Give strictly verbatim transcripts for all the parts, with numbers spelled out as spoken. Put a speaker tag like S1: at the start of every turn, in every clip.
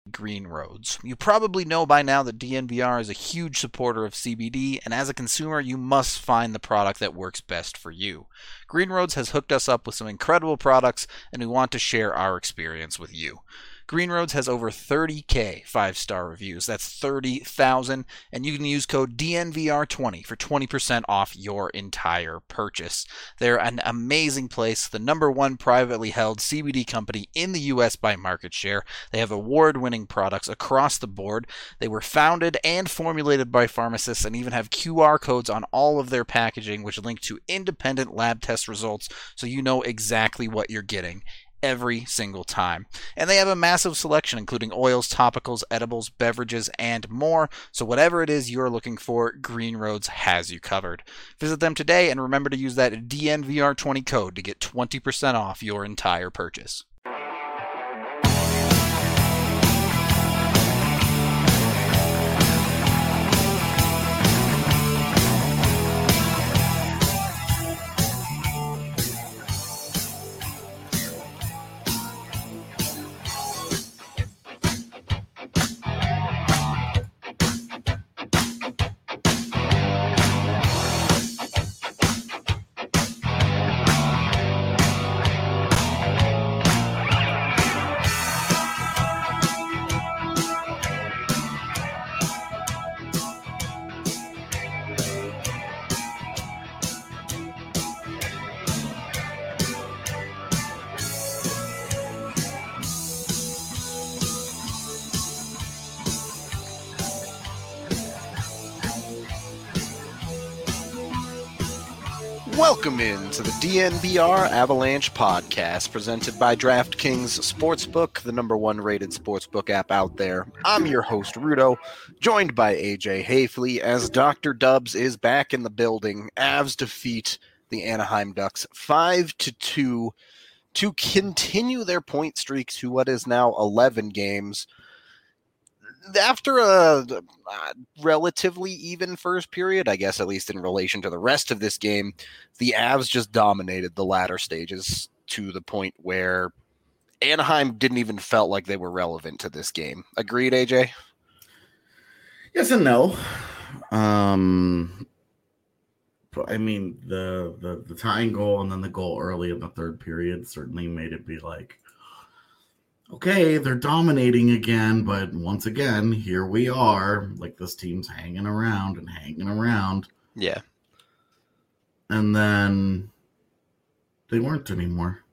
S1: Green Roads. You probably know by now that D N V R is a huge supporter of C B D, and as a consumer, you must find the product that works best for you. Green Roads has hooked us up with some incredible products, and we want to share our experience with you. Green Roads has over thirty K five-star reviews. That's thirty thousand, and you can use code D N V R twenty for twenty percent off your entire purchase. They're an amazing place, the number one privately held C B D company in the U S by market share. They have award-winning products across the board. They were founded and formulated by pharmacists and even have Q R codes on all of their packaging, which link to independent lab test results so you know exactly what you're getting every single time. And they have a massive selection, including oils, topicals, edibles, beverages, and more. So whatever it is you're looking for, Green Roads has you covered. Visit them today and remember to use that D N V R twenty code to get twenty percent off your entire purchase. Welcome into the D N V R Avalanche podcast presented by DraftKings Sportsbook, the number one rated sportsbook app out there. I'm your host, Rudo, joined by A J Hayfley as Doctor Dubs is back in the building. Avs defeat the Anaheim Ducks five to two to continue their point streak to what is now eleven games. After a, a relatively even first period, I guess, at least in relation to the rest of this game, the Avs just dominated the latter stages to the point where Anaheim didn't even felt like they were relevant to this game. Agreed, A J?
S2: Yes and no. Um, I mean, the, the, the tying goal and then the goal early in the third period certainly made it be like, okay, they're dominating again, but once again, here we are. Like, this team's hanging around and hanging around.
S1: Yeah.
S2: And then they weren't anymore.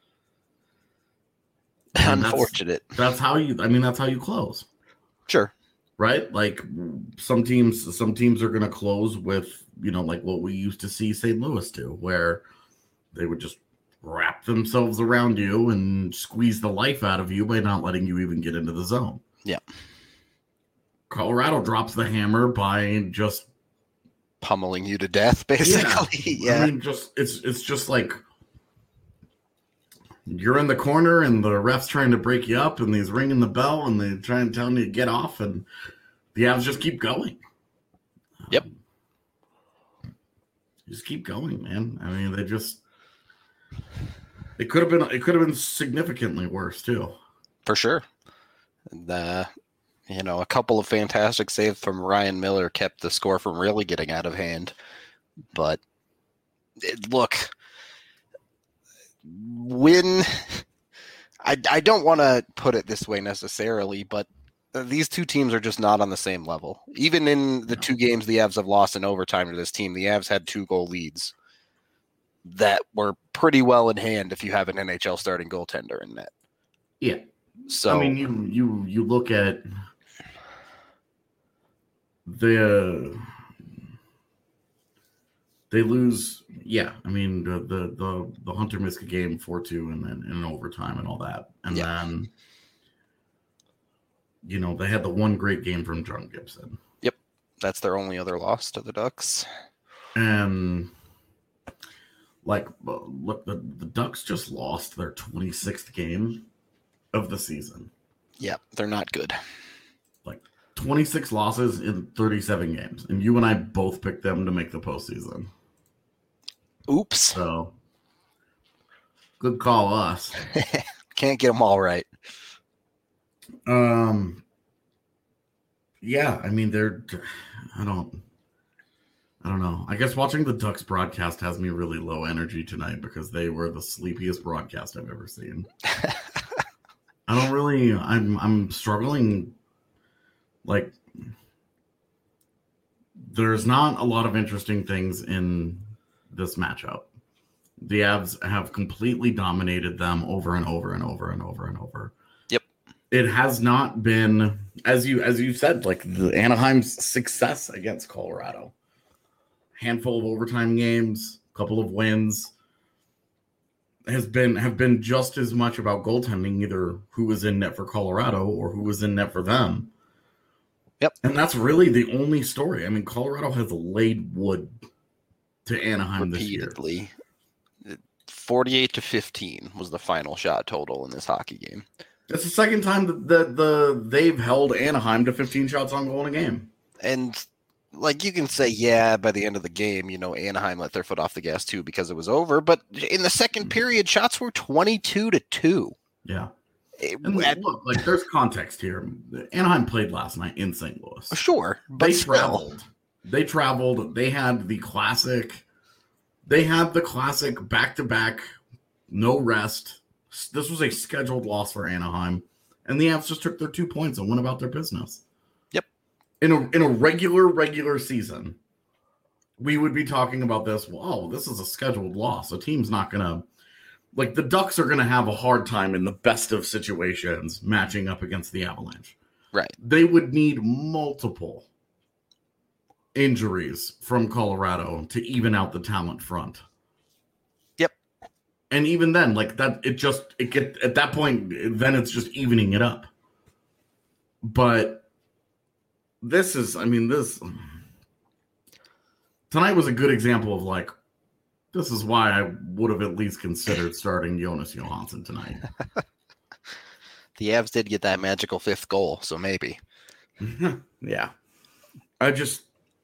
S2: And
S1: Unfortunate.
S2: That's, that's how you, I mean, that's how you close.
S1: Sure.
S2: Right? Like, some teams, some teams are going to close with, you know, like what we used to see Saint Louis do, where they would just wrap themselves around you and squeeze the life out of you by not letting you even get into the zone.
S1: Yeah.
S2: Colorado drops the hammer by just
S1: pummeling you to death, basically.
S2: Yeah. yeah. I mean, just it's it's just like you're in the corner and the ref's trying to break you up and he's ringing the bell and they're trying to tell you to get off and the Avs just keep going.
S1: Yep.
S2: Um, just keep going, man. I mean, they just It could have been. It could have been significantly worse too,
S1: for sure. And, uh, you know, a couple of fantastic saves from Ryan Miller kept the score from really getting out of hand. But it, look, when I I don't want to put it this way necessarily, but these two teams are just not on the same level. Even in the
S2: no.
S1: two games the Avs have lost in overtime to this team, the Avs had two goal leads that were pretty well in hand if you have an N H L starting goaltender in net.
S2: Yeah.
S1: So
S2: I mean, you you you look at the they lose. Yeah, I mean the the the, the Hunter missed a game four two and then in overtime and all that, and yeah. then you know they had the one great game from John Gibson.
S1: Yep, that's their only other loss to the Ducks.
S2: And like, look, the, the Ducks just lost their twenty-sixth game of the season.
S1: Yep, they're not good.
S2: Like, twenty-six losses in thirty-seven games. And you and I both picked them to make the postseason.
S1: Oops.
S2: So, good call us.
S1: Can't get them all right.
S2: Um, yeah, I mean, they're, I don't, I don't know. I guess watching the Ducks broadcast has me really low energy tonight because they were the sleepiest broadcast I've ever seen. I don't really, I'm, I'm struggling. Like, there's not a lot of interesting things in this matchup. The Avs have completely dominated them over and over and over and over and over.
S3: Yep.
S2: It has not been, as you as you said, like the Anaheim's success against Colorado. Handful of overtime games, couple of wins, has been have been just as much about goaltending, either who was in net for Colorado or who was in net for them.
S3: Yep.
S2: And that's really the only story. I mean, Colorado has laid wood to Anaheim
S3: repeatedly.
S2: this year.
S3: forty-eight to fifteen was the final shot total in this hockey game.
S2: It's the second time that the, the they've held Anaheim to fifteen shots on goal in a game.
S3: And like you can say, yeah, by the end of the game, you know, Anaheim let their foot off the gas too because it was over. But in the second period, shots were twenty-two to two.
S2: Yeah.
S3: It,
S2: And
S3: at,
S2: look, like there's context here. Anaheim played last night in Saint Louis.
S3: Sure, but
S2: they
S3: still.
S2: traveled. They traveled. They had the classic. They had the classic back-to-back, no rest. This was a scheduled loss for Anaheim, and the Avs just took their two points and went about their business.
S3: Yep.
S2: In a in a regular regular season, we would be talking about this. Well, oh, this is a scheduled loss. A team's not gonna. Like, the Ducks are going to have a hard time in the best of situations matching up against the Avalanche.
S3: Right.
S2: They would need multiple injuries from Colorado to even out the talent front.
S3: Yep.
S2: And even then, like, that, it just, it get at that point, then it's just evening it up. But this is, I mean, this, tonight was a good example of, like, this is why I would have at least considered starting Jonas Johansson tonight.
S3: The Avs did get that magical fifth goal, so maybe.
S2: Yeah. I just,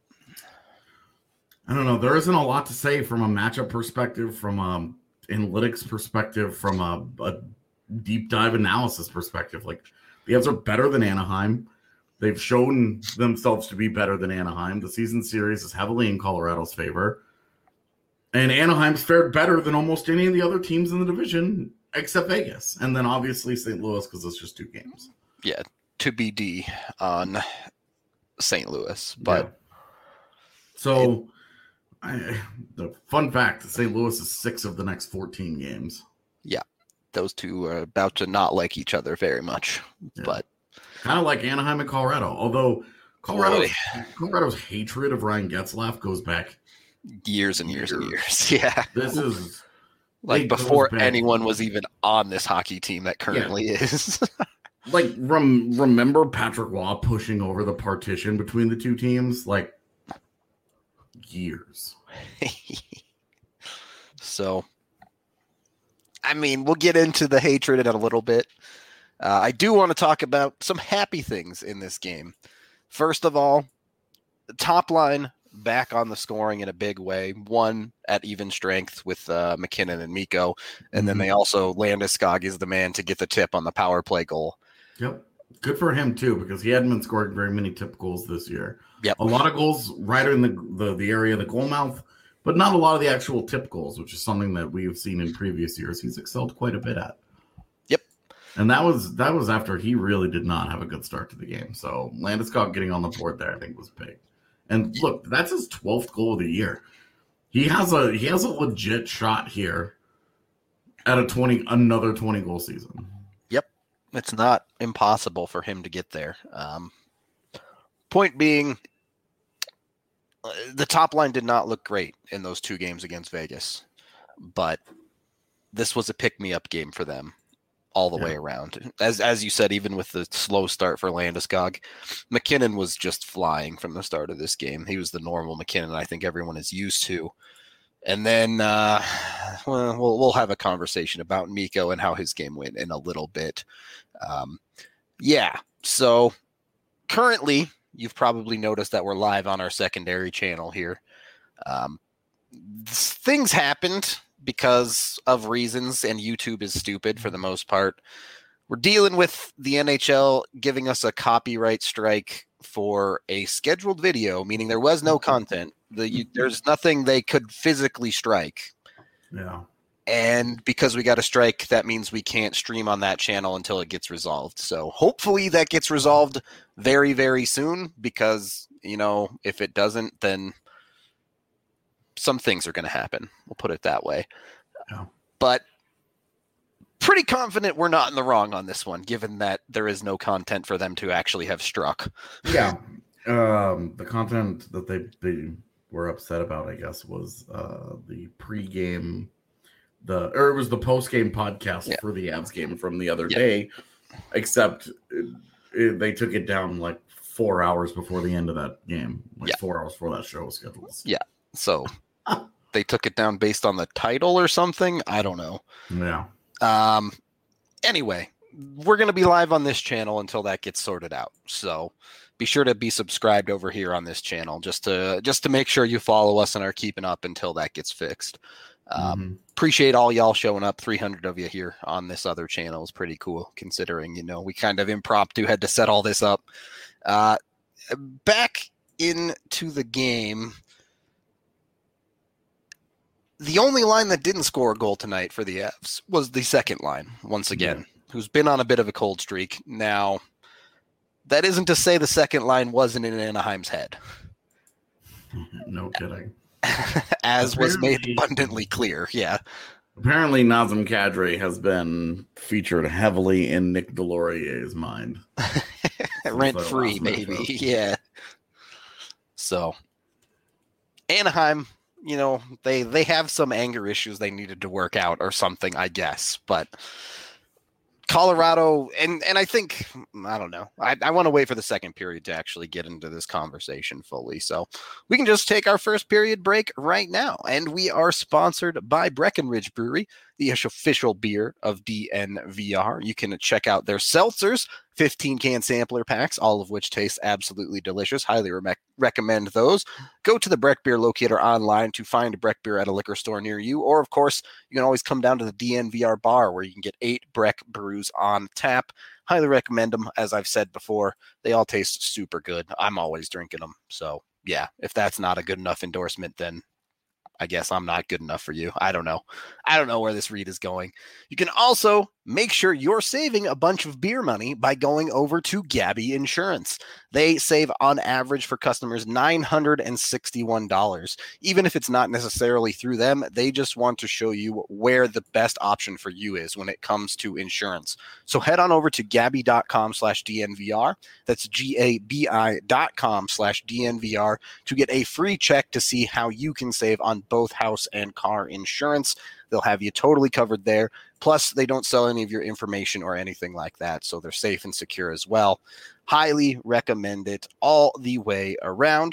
S2: I don't know. There isn't a lot to say from a matchup perspective, from a analytics perspective, from a, a deep dive analysis perspective. Like, the Avs are better than Anaheim. They've shown themselves to be better than Anaheim. The season series is heavily in Colorado's favor. And Anaheim's fared better than almost any of the other teams in the division, except Vegas. And then obviously Saint Louis, because it's just two games.
S3: Yeah, to B D on Saint Louis. But
S2: yeah. So, it, I, the fun fact, Saint Louis is six of the next fourteen games.
S3: Yeah, those two are about to not like each other very much. Yeah. But
S2: kind of like Anaheim and Colorado. Although Colorado's, Colorado's hatred of Ryan Getzlaf goes back
S3: years and years, years and years. Yeah.
S2: This is
S3: like before anyone was even on this hockey team that currently yeah. is.
S2: Like, rem- remember Patrick Waugh pushing over the partition between the two teams? Like, years.
S3: So, I mean, we'll get into the hatred in a little bit. Uh, I do want to talk about some happy things in this game. First of all, the top line back on the scoring in a big way. One at even strength with uh, McKinnon and Mikko. And mm-hmm. then they also, Landeskog is the man to get the tip on the power play goal.
S2: Yep. Good for him, too, because he hadn't been scoring very many tip goals this year.
S3: Yep.
S2: A lot of goals right in the, the, the area of the goal mouth, but not a lot of the actual tip goals, which is something that we have seen in previous years. He's excelled quite a bit at.
S3: Yep.
S2: And that was that was after he really did not have a good start to the game. So Landeskog getting on the board there, I think, was big. And look, that's his twelfth goal of the year. He has a he has a legit shot here at a twenty another twenty goal season.
S3: Yep, it's not impossible for him to get there. Um, point being, the top line did not look great in those two games against Vegas, but this was a pick-me-up game for them all the yeah. way around. As as you said, even with the slow start for Landeskog, McKinnon was just flying from the start of this game. He was the normal McKinnon I think everyone is used to. And then uh, well, we'll we'll have a conversation about Mikko and how his game went in a little bit. Um, yeah, so currently you've probably noticed that we're live on our secondary channel here. Um, things happened because of reasons, and YouTube is stupid for the most part. we're dealing with the N H L giving us a copyright strike for a scheduled video, meaning there was no content. The, you, there's nothing they could physically strike.
S2: Yeah.
S3: And because we got a strike, that means we can't stream on that channel until it gets resolved. So hopefully that gets resolved very, very soon, because, you know, if it doesn't, then some things are going to happen. We'll put it that way.
S2: Yeah.
S3: But pretty confident we're not in the wrong on this one, given that there is no content for them to actually have struck.
S2: Yeah. Um, the content that they, they were upset about, I guess, was uh, the pregame, the or it was the post-game podcast
S3: yeah.
S2: for the Avs game from the other
S3: yeah.
S2: day, except it, it, they took it down like four hours before the end of that game, like
S3: yeah.
S2: four hours before that show was scheduled.
S3: Yeah. So they took it down based on the title or something. I don't know.
S2: Yeah.
S3: Um. Anyway, we're going to be live on this channel until that gets sorted out. So be sure to be subscribed over here on this channel just to just to make sure you follow us and are keeping up until that gets fixed. Um, mm-hmm. Appreciate all y'all showing up. three hundred of you here on this other channel is pretty cool, considering, you know, we kind of impromptu had to set all this up. Uh, back into the game. The only line that didn't score a goal tonight for the Avs was the second line, once again, yeah. who's been on a bit of a cold streak. Now, that isn't to say the second line wasn't in Anaheim's head.
S2: No kidding.
S3: As apparently, was made abundantly clear, yeah.
S2: Apparently, Nazem Kadri has been featured heavily in Nick Delorier's mind.
S3: Rent-free, maybe, yeah. So, Anaheim, you know, they, they have some anger issues they needed to work out or something, I guess. But Colorado, and, and I think, I don't know, I, I want to wait for the second period to actually get into this conversation fully. So we can just take our first period break right now. And we are sponsored by Breckenridge Brewery, the official beer of D N V R. You can check out their seltzers, fifteen can sampler packs, all of which taste absolutely delicious. Highly re- recommend those. Go to the Breck Beer Locator online to find Breck Beer at a liquor store near you. Or, of course, you can always come down to the D N V R bar where you can get eight Breck brews on tap. Highly recommend them. As I've said before, they all taste super good. I'm always drinking them. So, yeah, if that's not a good enough endorsement, then I guess I'm not good enough for you. I don't know. I don't know where this read is going. You can also make sure you're saving a bunch of beer money by going over to Gabby Insurance. They save on average for customers nine hundred sixty-one dollars. Even if it's not necessarily through them, they just want to show you where the best option for you is when it comes to insurance. So head on over to gabby.com slash DNVR. That's G-A-B-I dot com slash DNVR to get a free check to see how you can save on both house and car insurance. They'll have you totally covered there. Plus, they don't sell any of your information or anything like that, so they're safe and secure as well. Highly recommend it all the way around.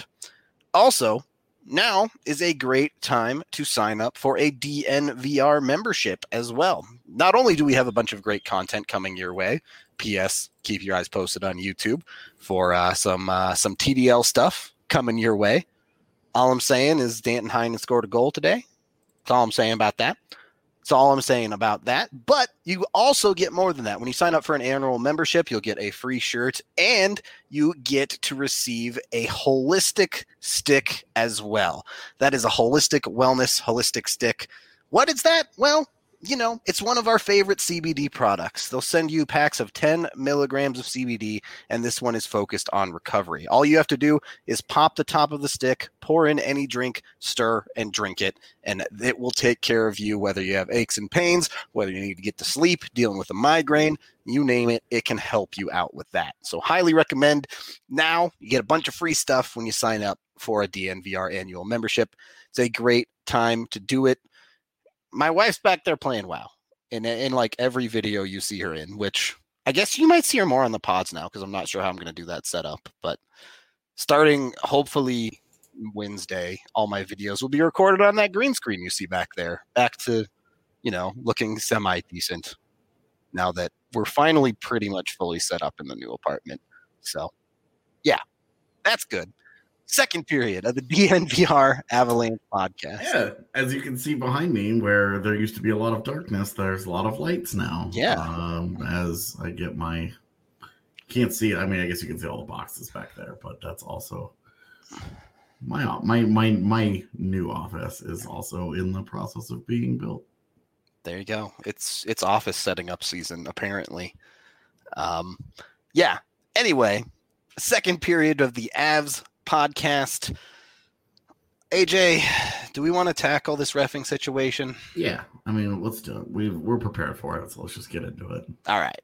S3: Also, now is a great time to sign up for a D N V R membership as well. Not only do we have a bunch of great content coming your way, P S keep your eyes posted on YouTube for uh, some uh, some T D L stuff coming your way. All I'm saying is Danton Heinen scored a goal today. That's all I'm saying about that. That's all I'm saying about that. But you also get more than that. When you sign up for an annual membership, you'll get a free shirt and you get to receive a holistic stick as well. That is a holistic wellness, holistic stick. What is that? Well, you know, it's one of our favorite C B D products. They'll send you packs of ten milligrams of C B D, and this one is focused on recovery. All you have to do is pop the top of the stick, pour in any drink, stir, and drink it, and it will take care of you, whether you have aches and pains, whether you need to get to sleep, dealing with a migraine, you name it, it can help you out with that. So highly recommend. Now you get a bunch of free stuff when you sign up for a D N V R annual membership. It's a great time to do it. My wife's back there playing WoW in, in like every video you see her in, which I guess you might see her more on the pods now because I'm not sure how I'm going to do that setup. But starting hopefully Wednesday, all my videos will be recorded on that green screen you see back there. Back to, you know, looking semi-decent now that we're finally pretty much fully set up in the new apartment. So, yeah, that's good. second period of the D N V R Avalanche podcast.
S2: Yeah, as you can see behind me, where there used to be a lot of darkness, there's a lot of lights now.
S3: Yeah.
S2: Um, as I get my, can't see it. I mean, I guess you can see all the boxes back there, but that's also my my my my new office is also in the process of being built.
S3: There you go. It's it's office setting up season apparently. Um, yeah. Anyway, second period of the Avs podcast. A J, do we want to tackle this reffing situation?
S2: Yeah, I mean, let's do it. We we're prepared for it, so let's just get into it.
S3: All right.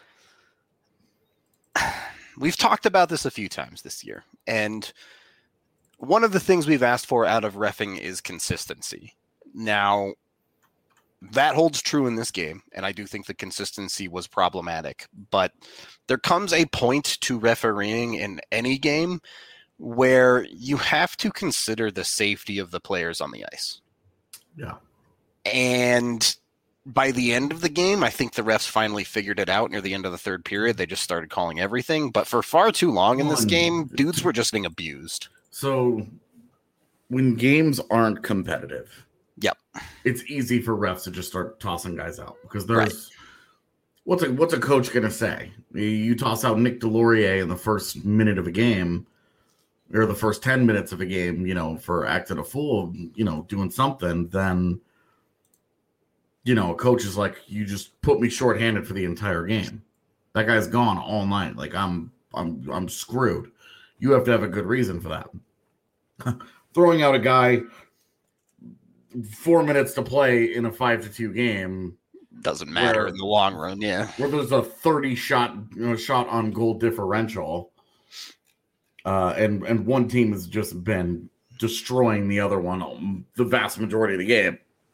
S3: We've talked about this a few times this year, and one of the things we've asked for out of reffing is consistency. Now, that holds true in this game, and I do think the consistency was problematic, but there comes a point to refereeing in any game where you have to consider the safety of the players on the ice.
S2: Yeah.
S3: And by the end of the game, I think the refs finally figured it out near the end of the third period. They just started calling everything. But for far too long in this game, dudes were just getting abused.
S2: So when games aren't competitive,
S3: yep,
S2: it's easy for refs to just start tossing guys out because there's
S3: right.
S2: what's a what's a coach gonna say? You toss out Nick Delorier in the first minute of a game, or the first ten minutes of a game, you know, for acting a fool, you know, doing something, then you know, a coach is like, you just put me shorthanded for the entire game. That guy's gone all night. Like I'm I'm I'm screwed. You have to have a good reason for that. Throwing out a guy four minutes to play in a five to two game
S3: doesn't matter
S2: where,
S3: in the long run. Yeah,
S2: where there's a thirty shot you know, shot on goal differential, uh, and and one team has just been destroying the other one the vast majority of the game.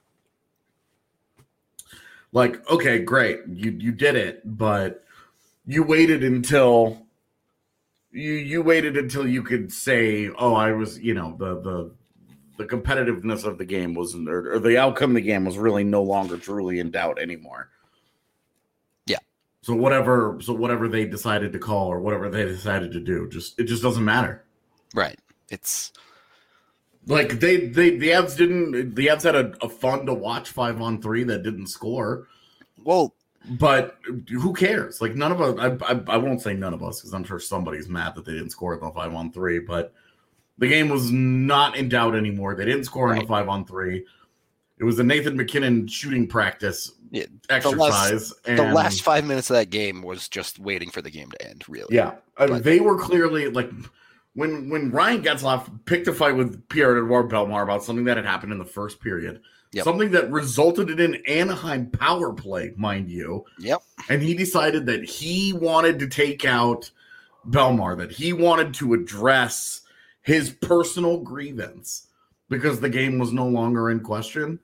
S2: Like, okay, great, you you did it, but you waited until. You you waited until you could say, "Oh, I was," you know, the the the competitiveness of the game was, or, or the outcome of the game was really no longer truly in doubt anymore.
S3: Yeah.
S2: So whatever, so whatever they decided to call or whatever they decided to do, just it just doesn't matter.
S3: Right. It's
S2: like they they the Avs didn't the Avs had a, a fun to watch five on three that didn't score.
S3: Well.
S2: But who cares? Like none of us. I, I, I won't say none of us because I'm sure somebody's mad that they didn't score in the five on three. But the game was not in doubt anymore. They didn't score right. in the five on three. It was a Nathan McKinnon shooting practice
S3: yeah,
S2: exercise.
S3: The last, and the last five minutes of that game was just waiting for the game to end. Really,
S2: yeah. But, they were clearly like when when Ryan Getzlaf picked a fight with Pierre-Edouard Bellemare about something that had happened in the first period. Yep. Something that resulted in an Anaheim power play, mind you.
S3: Yep.
S2: And he decided that he wanted to take out Bellemare, that he wanted to address his personal grievance because the game was no longer in question.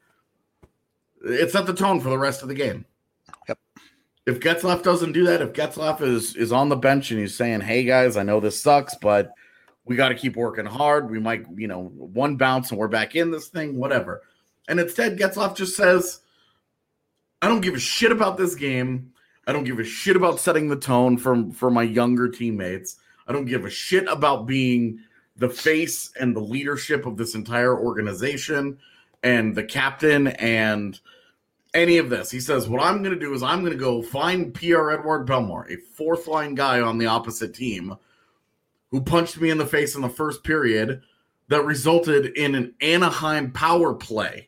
S2: It set the tone for the rest of the game.
S3: Yep.
S2: If Getzlaf doesn't do that, if Getzlaf is, is on the bench and he's saying, hey, guys, I know this sucks, but we got to keep working hard. We might, you know, one bounce and we're back in this thing, whatever. And instead, Getzlaf just says, I don't give a shit about this game. I don't give a shit about setting the tone for, for my younger teammates. I don't give a shit about being the face and the leadership of this entire organization and the captain and any of this. He says, what I'm going to do is I'm going to go find Pierre-Edouard Bellemare, a fourth-line guy on the opposite team who punched me in the face in the first period that resulted in an Anaheim power play.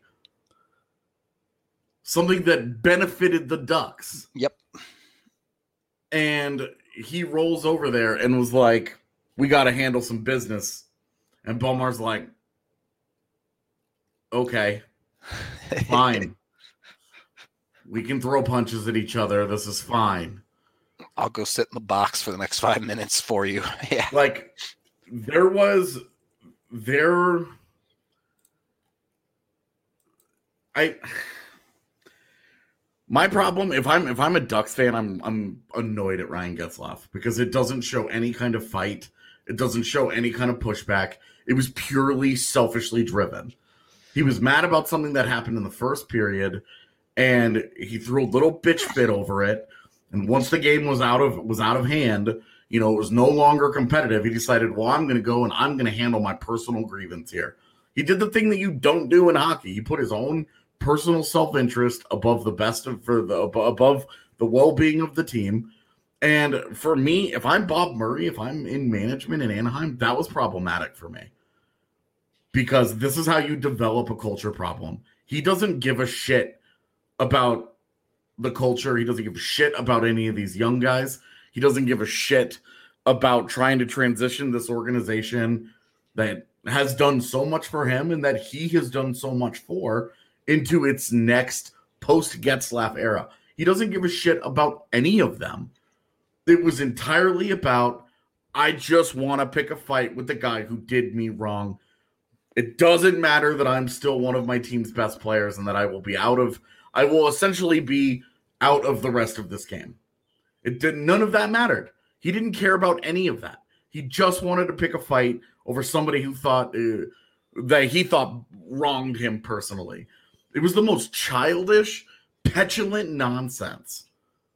S2: Something that benefited the Ducks.
S3: Yep.
S2: And he rolls over there and was like, we got to handle some business. And Bellemare's like, okay, fine. We can throw punches at each other. This is fine.
S3: I'll go sit in the box for the next five minutes for you. Yeah.
S2: Like, there was, there, I... My problem, if I'm if I'm a Ducks fan, I'm I'm annoyed at Ryan Getzlaf because it doesn't show any kind of fight. It doesn't show any kind of pushback. It was purely selfishly driven. He was mad about something that happened in the first period, and he threw a little bitch fit over it. And once the game was out of was out of hand, You know, it was no longer competitive. He decided, well, I'm going to go and I'm going to handle my personal grievance here. He did the thing that you don't do in hockey. He put his own personal self-interest above the best of for the above the well-being of the team. And for me, if I'm Bob Murray, if I'm in management in Anaheim, that was problematic for me. Because this is how you develop a culture problem. He doesn't give a shit about the culture. He doesn't give a shit about any of these young guys. He doesn't give a shit about trying to transition this organization that has done so much for him and that he has done so much for into its next post-Getzlaf era. He doesn't give a shit about any of them. It was entirely about, I just want to pick a fight with the guy who did me wrong. It doesn't matter that I'm still one of my team's best players and that I will be out of, I will essentially be out of the rest of this game. It did, none of that mattered. He didn't care about any of that. He just wanted to pick a fight over somebody who thought uh, that he thought wronged him personally. It was the most childish, petulant nonsense.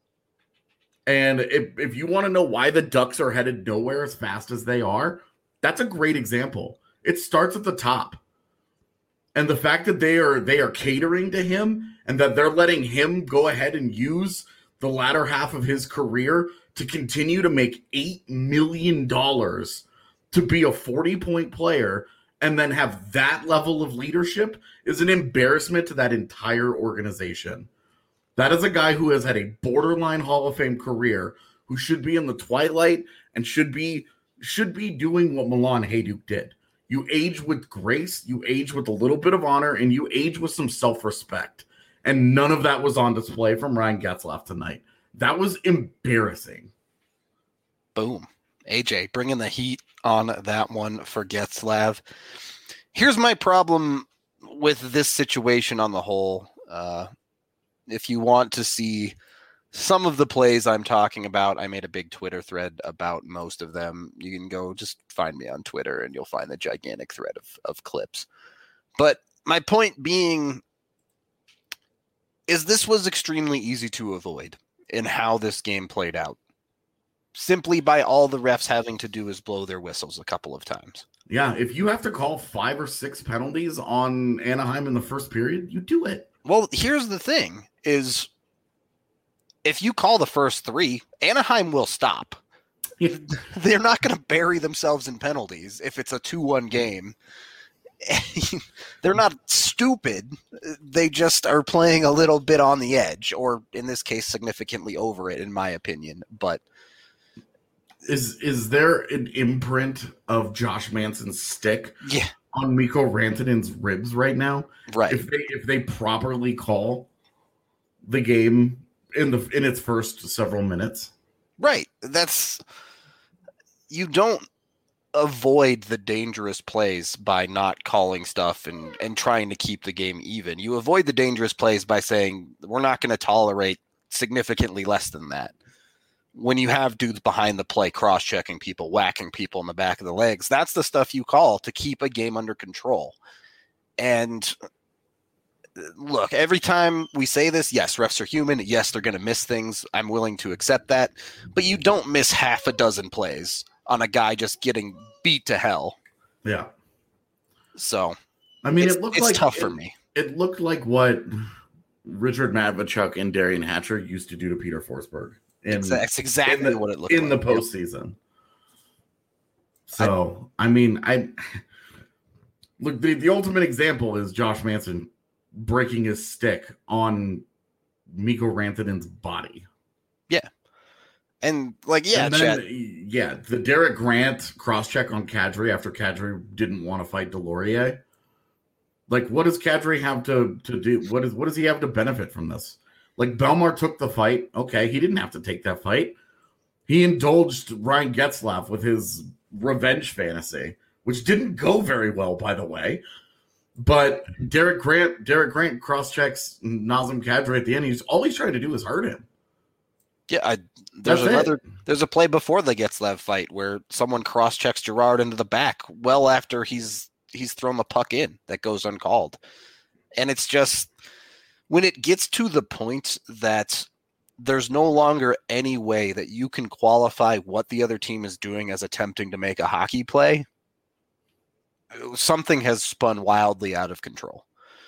S2: And if, if you want to know why the Ducks are headed nowhere as fast as they are, that's a great example. It starts at the top. And the fact that they are they are catering to him and that they're letting him go ahead and use the latter half of his career to continue to make eight million dollars to be a forty-point player and then have that level of leadership is an embarrassment to that entire organization. That is a guy who has had a borderline Hall of Fame career, who should be in the twilight and should be should be doing what Milan Hajduk did. You age with grace, you age with a little bit of honor, and you age with some self-respect. And none of that was on display from Ryan Getzlaf tonight. That was embarrassing.
S3: Boom. A J, bringing the heat on that one for Getzlaf. Here's my problem with this situation on the whole. Uh, if you want to see some of the plays I'm talking about, I made a big Twitter thread about most of them. You can go just find me on Twitter and you'll find the gigantic thread of, of clips. But my point being is this was extremely easy to avoid in how this game played out. Simply by all the refs having to do is blow their whistles a couple of times.
S2: Yeah, if you have to call five or six penalties on Anaheim in the first period, you do it.
S3: Well, here's the thing is if you call the first three, Anaheim will stop.
S2: Yeah.
S3: They're not going to bury themselves in penalties if it's a two one game. They're not stupid. They just are playing a little bit on the edge, or in this case, significantly over it, in my opinion. But
S2: is is there an imprint of Josh Manson's stick
S3: yeah.
S2: on Mikko Rantanen's ribs right now?
S3: Right.
S2: If they if they properly call the game in the in its first several minutes.
S3: Right. That's you don't avoid the dangerous plays by not calling stuff and, and trying to keep the game even. You avoid the dangerous plays by saying we're not going to tolerate significantly less than that. When you have dudes behind the play cross-checking people, whacking people in the back of the legs, that's the stuff you call to keep a game under control. And look, every time we say this, yes, refs are human. Yes, they're going to miss things. I'm willing to accept that. But you don't miss half a dozen plays on a guy just getting beat to hell.
S2: Yeah.
S3: So,
S2: I mean,
S3: it's,
S2: it looked
S3: it's
S2: like
S3: tough
S2: it,
S3: for me.
S2: It looked like what Richard Matvichuk and Darian Hatcher used to do to Peter Forsberg. In,
S3: That's exactly
S2: the,
S3: what it looked
S2: in
S3: like.
S2: the postseason. So, I, I mean, I look, the, the ultimate example is Josh Manson breaking his stick on Mikko Rantanen's body.
S3: Yeah. And like, yeah,
S2: and then,
S3: Chad.
S2: yeah, the Derek Grant cross-check on Kadri after Kadri didn't want to fight Delorier. Like, what does Kadri have to, to do? What is what does he have to benefit from this? Like, Belmar took the fight. Okay, he didn't have to take that fight. He indulged Ryan Getzlaf with his revenge fantasy, which didn't go very well, by the way. But Derek Grant, Derek Grant cross-checks Nazem Kadri at the end. He's all he's trying to do is hurt him.
S3: Yeah, I, there's
S2: That's
S3: another.
S2: it.
S3: There's a play before the Getzlaf fight where someone cross-checks Gerard into the back well after he's he's thrown the puck in that goes uncalled, and it's just when it gets to the point that there's no longer any way that you can qualify what the other team is doing as attempting to make a hockey play. Something has spun wildly out of control.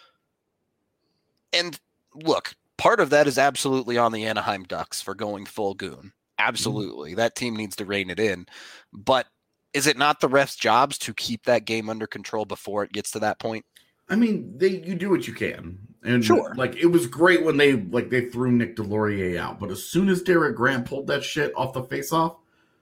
S3: And look, part of that is absolutely on the Anaheim Ducks for going full goon. Absolutely. Mm-hmm. That team needs to rein it in. But is it not the refs' jobs to keep that game under control before it gets to that point?
S2: I mean, they you do what you can. And
S3: sure.
S2: Like, it was great when they like they threw Nick Delorier out. But as soon as Derek Grant pulled that shit off the faceoff,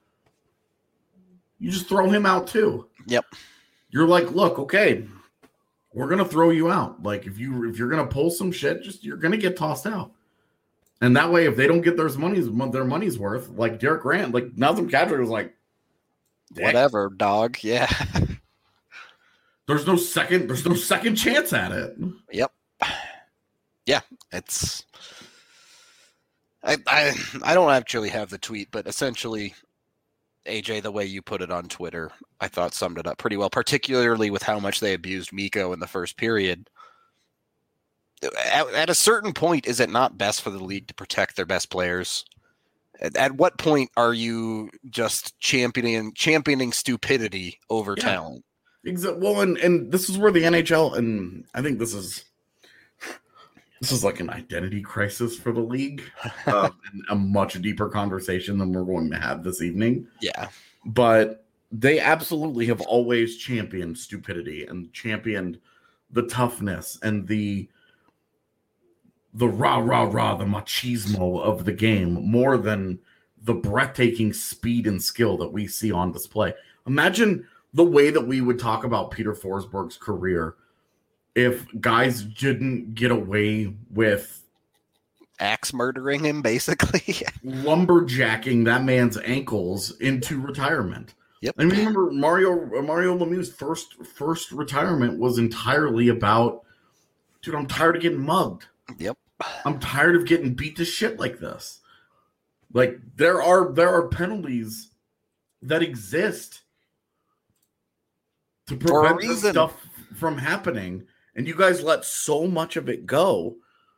S2: you just throw him out too.
S3: Yep.
S2: You're like, look, okay, we're gonna throw you out. Like, if you if you're gonna pull some shit, just you're gonna get tossed out. And that way, if they don't get their money's their money's worth, like Derek Grant, like Nazem Kadri was like,
S3: whatever, dog. Yeah.
S2: There's no second. There's no second chance at it.
S3: Yep. Yeah, it's. I I I don't actually have the tweet, but essentially, A J, the way you put it on Twitter, I thought summed it up pretty well. Particularly with how much they abused Mikko in the first period. At, at a certain point, is it not best for the league to protect their best players? At, at what point are you just championing championing stupidity over yeah. talent?
S2: Exactly. Well, and, and this is where the N H L, and I think this is this is like an identity crisis for the league, uh, and a much deeper conversation than we're going to have this evening.
S3: Yeah,
S2: but they absolutely have always championed stupidity and championed the toughness and the the rah rah rah, the machismo of the game more than the breathtaking speed and skill that we see on display. Imagine the way that we would talk about Peter Forsberg's career if guys didn't get away with
S3: axe murdering him, basically.
S2: lumberjacking that man's ankles into retirement.
S3: Yep.
S2: I mean, remember Mario Mario Lemieux's first first retirement was entirely about, dude, I'm tired of getting mugged.
S3: Yep.
S2: I'm tired of getting beat to shit like this. Like, there are there are penalties that exist to prevent this stuff from happening, and you guys let so much of it go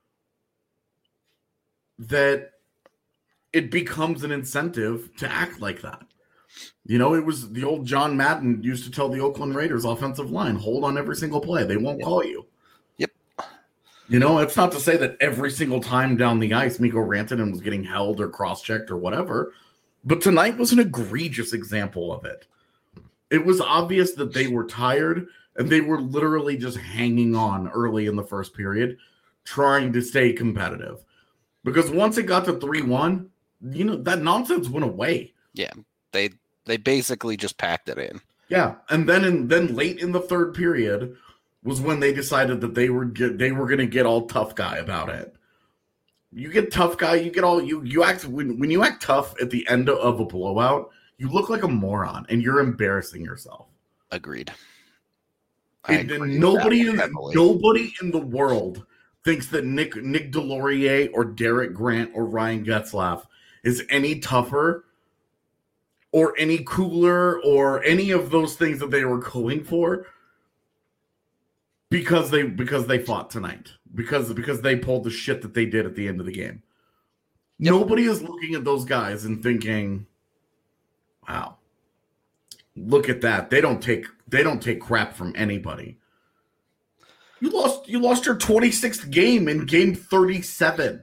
S2: that it becomes an incentive to act like that. You know, it was the old John Madden used to tell the Oakland Raiders offensive line, hold on every single play. They won't
S3: yep.
S2: call you.
S3: Yep.
S2: You know, it's not to say that every single time down the ice, Mikko Rantanen was getting held or cross-checked or whatever, but tonight was an egregious example of it. It was obvious that they were tired, and they were literally just hanging on early in the first period, trying to stay competitive. Because once it got to three one, you know, that nonsense went away.
S3: Yeah, they they basically just packed it in.
S2: Yeah, and then in, then late in the third period was when they decided that they were get, they were going to get all tough guy about it. You get tough guy, you get all you you act when when you act tough at the end of a blowout. You look like a moron, and you're embarrassing yourself.
S3: Agreed.
S2: And, and nobody, in, nobody in the world thinks that Nick Nick Delorier or Derek Grant or Ryan Getzlaf is any tougher or any cooler or any of those things that they were going for because they because they fought tonight because because they pulled the shit that they did at the end of the game. Yep. Nobody is looking at those guys and thinking, wow, look at that. They don't take they don't take crap from anybody. You lost you lost your twenty-sixth game in game thirty-seven.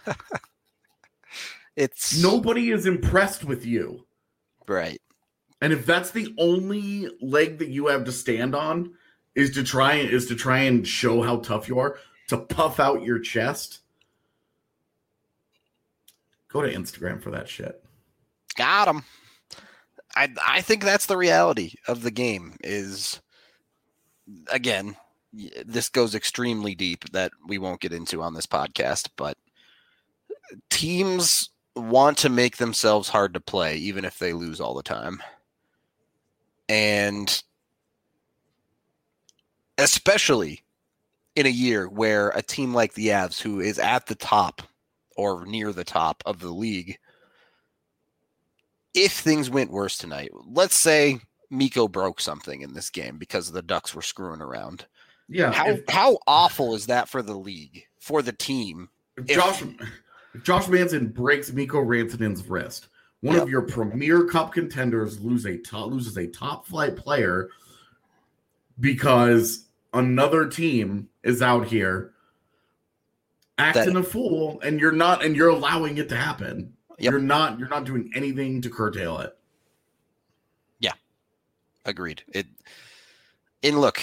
S3: It's
S2: nobody is impressed with you.
S3: Right.
S2: And if that's the only leg that you have to stand on is to try is to try and show how tough you are, to puff out your chest, go to Instagram for that shit.
S3: Got him. I I think that's the reality of the game is, again, this goes extremely deep that we won't get into on this podcast, but teams want to make themselves hard to play even if they lose all the time. And especially in a year where a team like the Avs, who is at the top or near the top of the league, if things went worse tonight, let's say Mikko broke something in this game because the Ducks were screwing around.
S2: Yeah.
S3: How
S2: if,
S3: how awful is that for the league, for the team?
S2: If Josh if If Josh Manson breaks Mikko Rantanen's wrist, one
S3: Yep.
S2: of your premier cup contenders lose a top, loses a top flight player because another team is out here acting
S3: That-
S2: a fool, and you're not, and you're allowing it to happen.
S3: Yep.
S2: You're not, you're not doing anything to curtail it.
S3: Agreed. It and look,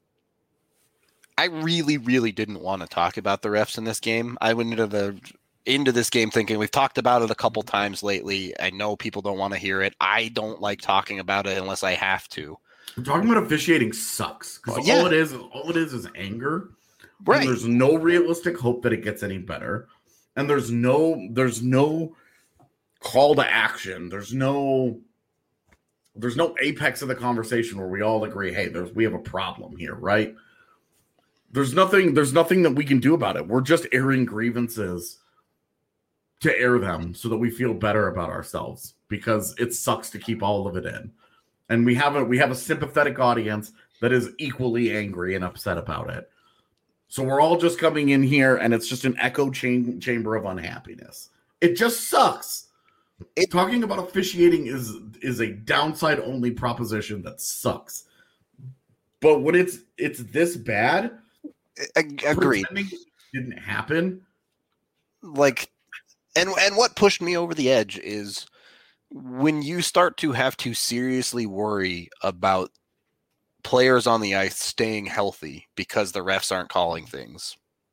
S3: I really, really didn't want to talk about the refs in this game. I went into the into this game thinking we've talked about it a couple times lately. I know people don't want to hear it. I don't like talking about it unless I have to.
S2: We're talking about officiating sucks because
S3: Oh, yeah.
S2: all it is, is all it is, is anger.
S3: Right.
S2: And there's no realistic hope that it gets any better, and there's no, there's no call to action. There's no. There's no apex of the conversation where we all agree, hey, there's we have a problem here, right? There's nothing, there's nothing that we can do about it. We're just airing grievances to air them so that we feel better about ourselves because it sucks to keep all of it in. And we have a we have a sympathetic audience that is equally angry and upset about it. So we're all just coming in here and it's just an echo cham- chamber of unhappiness. It just sucks. It, talking about officiating is is a downside only proposition that sucks. But when it's it's this bad,
S3: Ag- agreed.
S2: pretending it didn't happen.
S3: Like, and and what pushed me over the edge is when you start to have to seriously worry about players on the ice staying healthy because the refs aren't calling things.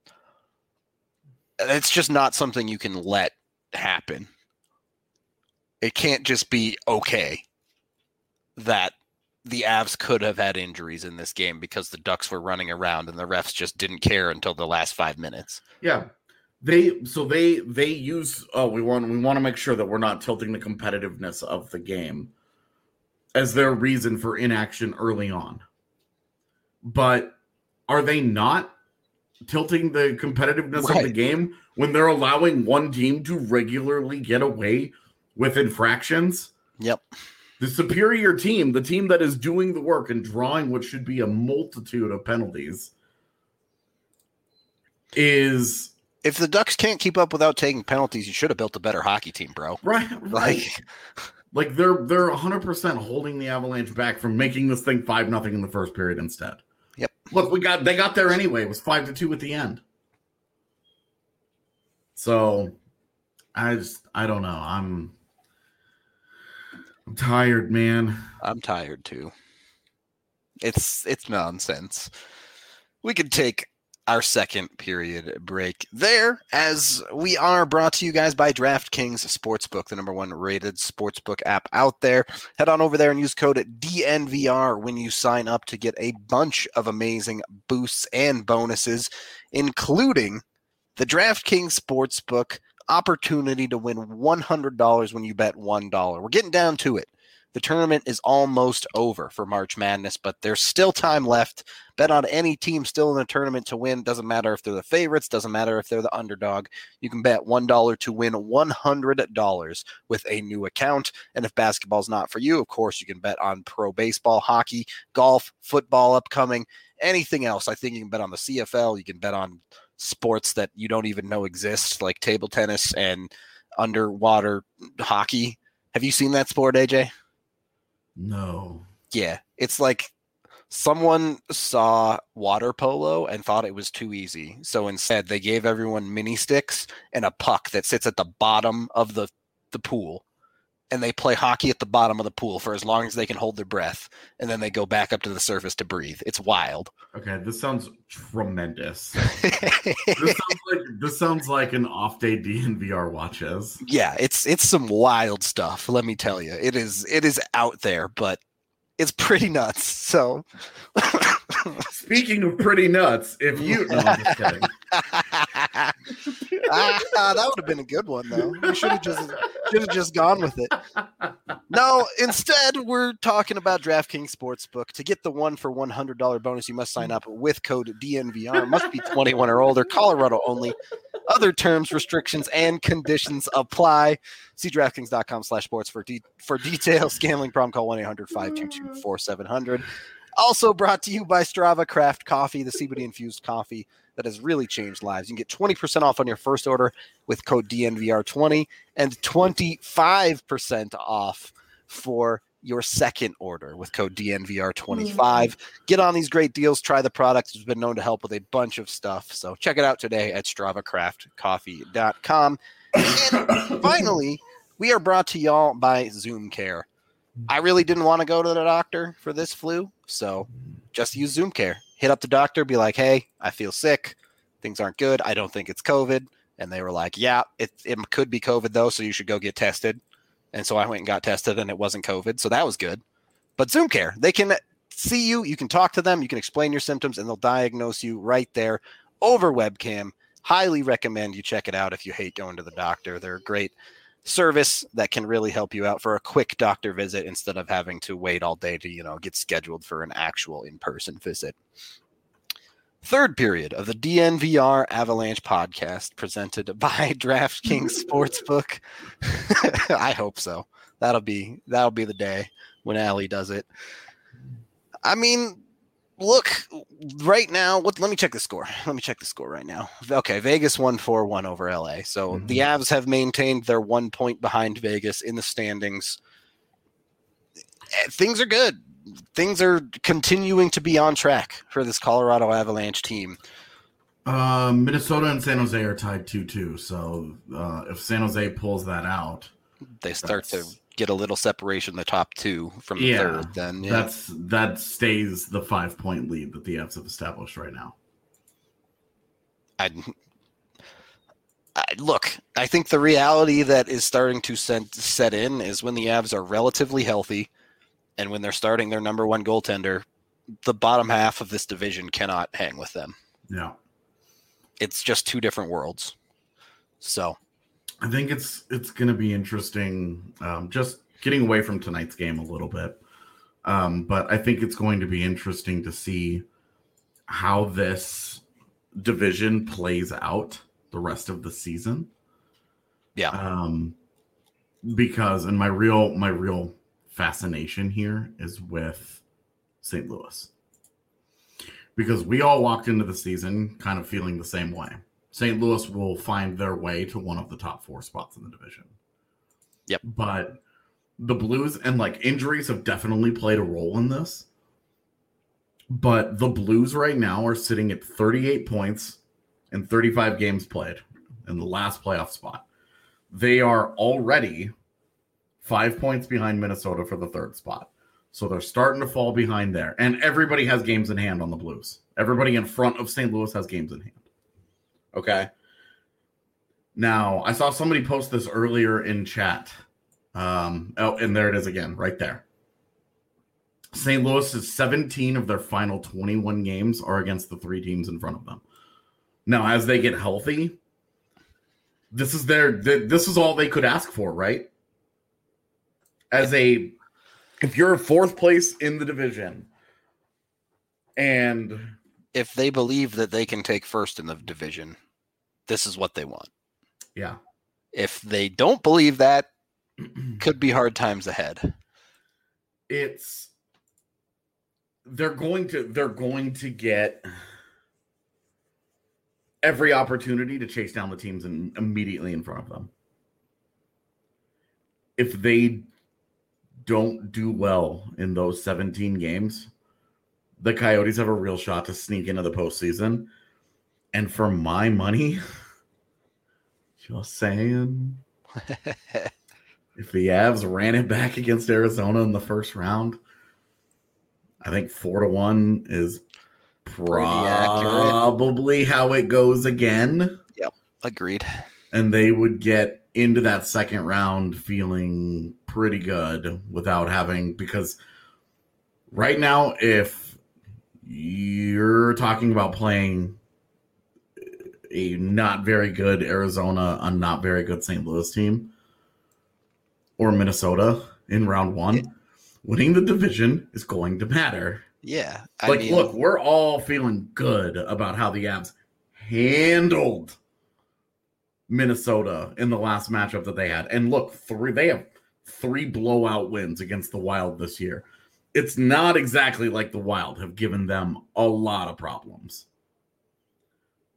S3: It's just not something you can let happen. It can't just be okay that the Avs could have had injuries in this game because the Ducks were running around and the refs just didn't care until the last five minutes.
S2: Yeah. They so they they use oh we want we want to make sure that we're not tilting the competitiveness of the game as their reason for inaction early on. But are they not tilting the competitiveness
S3: Right.
S2: of the game when they're allowing one team to regularly get away with infractions?
S3: Yep.
S2: The superior team, the team that is doing the work and drawing what should be a multitude of penalties, is
S3: If the Ducks can't keep up without taking penalties, you should have built a better hockey team, bro.
S2: right, right.
S3: Like,
S2: Like they're they're one hundred percent holding the Avalanche back from making this thing five nothing in the first period instead.
S3: Yep.
S2: Look, we got they got there anyway. It was five to two at the end. So I just I don't know. I'm I'm tired, man.
S3: I'm tired too. It's it's nonsense. We could take our second period break there, as we are brought to you guys by DraftKings Sportsbook, the number one rated sportsbook app out there. Head on over there and use code D N V R when you sign up to get a bunch of amazing boosts and bonuses, including the DraftKings Sportsbook opportunity to win one hundred dollars when you bet one dollar. We're getting down to it. The tournament is almost over for March Madness, but there's still time left. Bet on any team still in the tournament to win. Doesn't matter if they're the favorites. Doesn't matter if they're the underdog. You can bet one dollar to win one hundred dollars with a new account. And if basketball's not for you, of course, you can bet on pro baseball, hockey, golf, football upcoming, anything else. I think you can bet on the C F L. You can bet on sports that you don't even know exist, like table tennis and underwater hockey. Have you seen that sport, A J?
S2: No.
S3: Yeah, it's like someone saw water polo and thought it was too easy. So instead, they gave everyone mini sticks and a puck that sits at the bottom of the, the pool. And they play hockey at the bottom of the pool for as long as they can hold their breath. And then they go back up to the surface to breathe. It's wild.
S2: Okay, this sounds tremendous. this sounds like this sounds like an off day D N V R watches.
S3: Yeah, it's it's some wild stuff, let me tell you. It is it is out there, but it's pretty nuts. So
S2: Speaking of pretty nuts, if you no, I'm just kidding.
S3: ah, that would have been a good one, though. We should have just should have just gone with it. No, instead, we're talking about DraftKings Sportsbook. To get the one for one hundred dollars bonus, you must sign up with code D N V R. Must be twenty-one or older. Colorado only. Other terms, restrictions, and conditions apply. See DraftKings.com slash sports for de- for details. Gambling problem, call one eight hundred five two two four seven zero zero. Also brought to you by Strava Craft Coffee, the C B D-infused coffee that has really changed lives. You can get twenty percent off on your first order with code D N V R twenty and twenty-five percent off for your second order with code D N V R twenty-five. Get on these great deals. Try the product. It's been known to help with a bunch of stuff. So check it out today at strava craft coffee dot com. And finally, we are brought to y'all by Zoom Care. I really didn't want to go to the doctor for this flu, so just use Zoom Care. Hit up the doctor, be like, hey, I feel sick. Things aren't good. I don't think it's COVID. And they were like, yeah, it, it could be COVID, though, so you should go get tested. And so I went and got tested, and it wasn't COVID, so that was good. But Zoom Care, they can see you. You can talk to them. You can explain your symptoms, and they'll diagnose you right there over webcam. Highly recommend you check it out if you hate going to the doctor. They're a great service that can really help you out for a quick doctor visit instead of having to wait all day to, you know, get scheduled for an actual in-person visit. Third period of the D N V R Avalanche podcast presented by DraftKings Sportsbook. I hope so. That'll be that'll be the day when Allie does it. I mean, look, right now, what, let me check the score. Let me check the score right now. Okay, Vegas won four one over L A. So mm-hmm. the Avs have maintained their one point behind Vegas in the standings. Things are good. Things are continuing to be on track for this Colorado Avalanche team.
S2: Um, Minnesota and San Jose are tied two two. So uh, if San Jose pulls that out,
S3: they start to get a little separation in the top two from the
S2: yeah,
S3: third. Then yeah.
S2: that's that stays the five point lead that the Avs have established right now.
S3: I, I look. I think the reality that is starting to set, set in is when the Avs are relatively healthy. And when they're starting their number one goaltender, the bottom half of this division cannot hang with them.
S2: Yeah.
S3: It's just two different worlds. So
S2: I think it's it's going to be interesting, um, just getting away from tonight's game a little bit. Um, but I think it's going to be interesting to see how this division plays out the rest of the season.
S3: Yeah.
S2: Um, because, and my real, my real, fascination here is with Saint Louis, because we all walked into the season kind of feeling the same way. Saint Louis will find their way to one of the top four spots in the division.
S3: Yep.
S2: But the Blues, and like injuries have definitely played a role in this, but the Blues right now are sitting at thirty-eight points and thirty-five games played in the last playoff spot. They are already five points behind Minnesota for the third spot. So they're starting to fall behind there. And everybody has games in hand on the Blues. Everybody in front of Saint Louis has games in hand. Okay. Now, I saw somebody post this earlier in chat. Um, oh, and there it is again, right there. Saint Louis is seventeen of their final twenty-one games are against the three teams in front of them. Now, as they get healthy, this is their, this is all they could ask for, right? As a, if you're fourth place in the division, and
S3: if they believe that they can take first in the division, this is what they want.
S2: Yeah.
S3: If they don't believe that, could be hard times ahead.
S2: It's they're going to they're going to get every opportunity to chase down the teams in, immediately in front of them. If they don't do well in those seventeen games, the Coyotes have a real shot to sneak into the postseason. And for my money, just saying, if the Avs ran it back against Arizona in the first round, I think four to one is probably how it goes again.
S3: Yep, agreed.
S2: And they would get into that second round feeling pretty good without having, because right now, if you're talking about playing a not very good Arizona, a not very good Saint Louis team, or Minnesota in round one, yeah. winning the division is going to matter.
S3: Yeah. I
S2: like,
S3: mean,
S2: look, we're all feeling good about how the Avs handled Minnesota in the last matchup that they had. And look, three they have three blowout wins against the Wild this year. It's not exactly like the Wild have given them a lot of problems.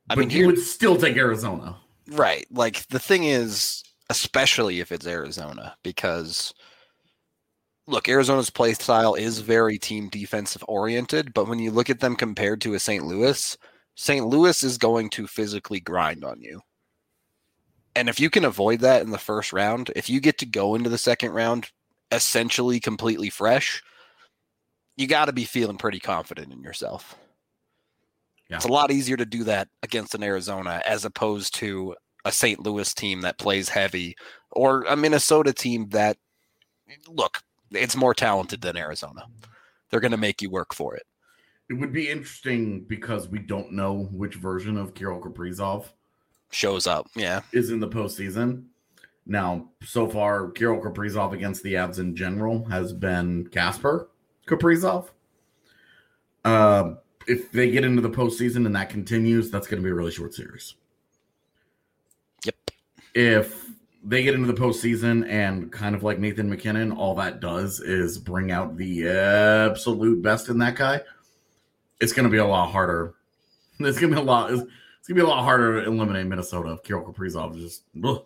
S3: I
S2: but
S3: mean,
S2: you
S3: here,
S2: would still take Arizona.
S3: right. Like the thing is, especially if it's Arizona, because look, Arizona's play style is very team defensive oriented, but when you look at them compared to a Saint Louis, Saint Louis is going to physically grind on you. And if you can avoid that in the first round, if you get to go into the second round essentially completely fresh, you got to be feeling pretty confident in yourself. Yeah. It's a lot easier to do that against an Arizona as opposed to a Saint Louis team that plays heavy or a Minnesota team that, look, it's more talented than Arizona. They're going to make you work for it.
S2: It would be interesting because we don't know which version of Kirill Kaprizov
S3: shows up. Yeah.
S2: Is in the postseason. Now, so far, Kirill Kaprizov against the Avs in general has been Kasper Kaprizov. Uh, if they get into the postseason and that continues, that's going to be a really short series.
S3: Yep.
S2: If they get into the postseason and kind of like Nathan McKinnon, all that does is bring out the absolute best in that guy, it's going to be a lot harder. It's going to be a lot. It's, it's going to be a lot harder to eliminate Minnesota if Kirill Kaprizov is just. Ugh.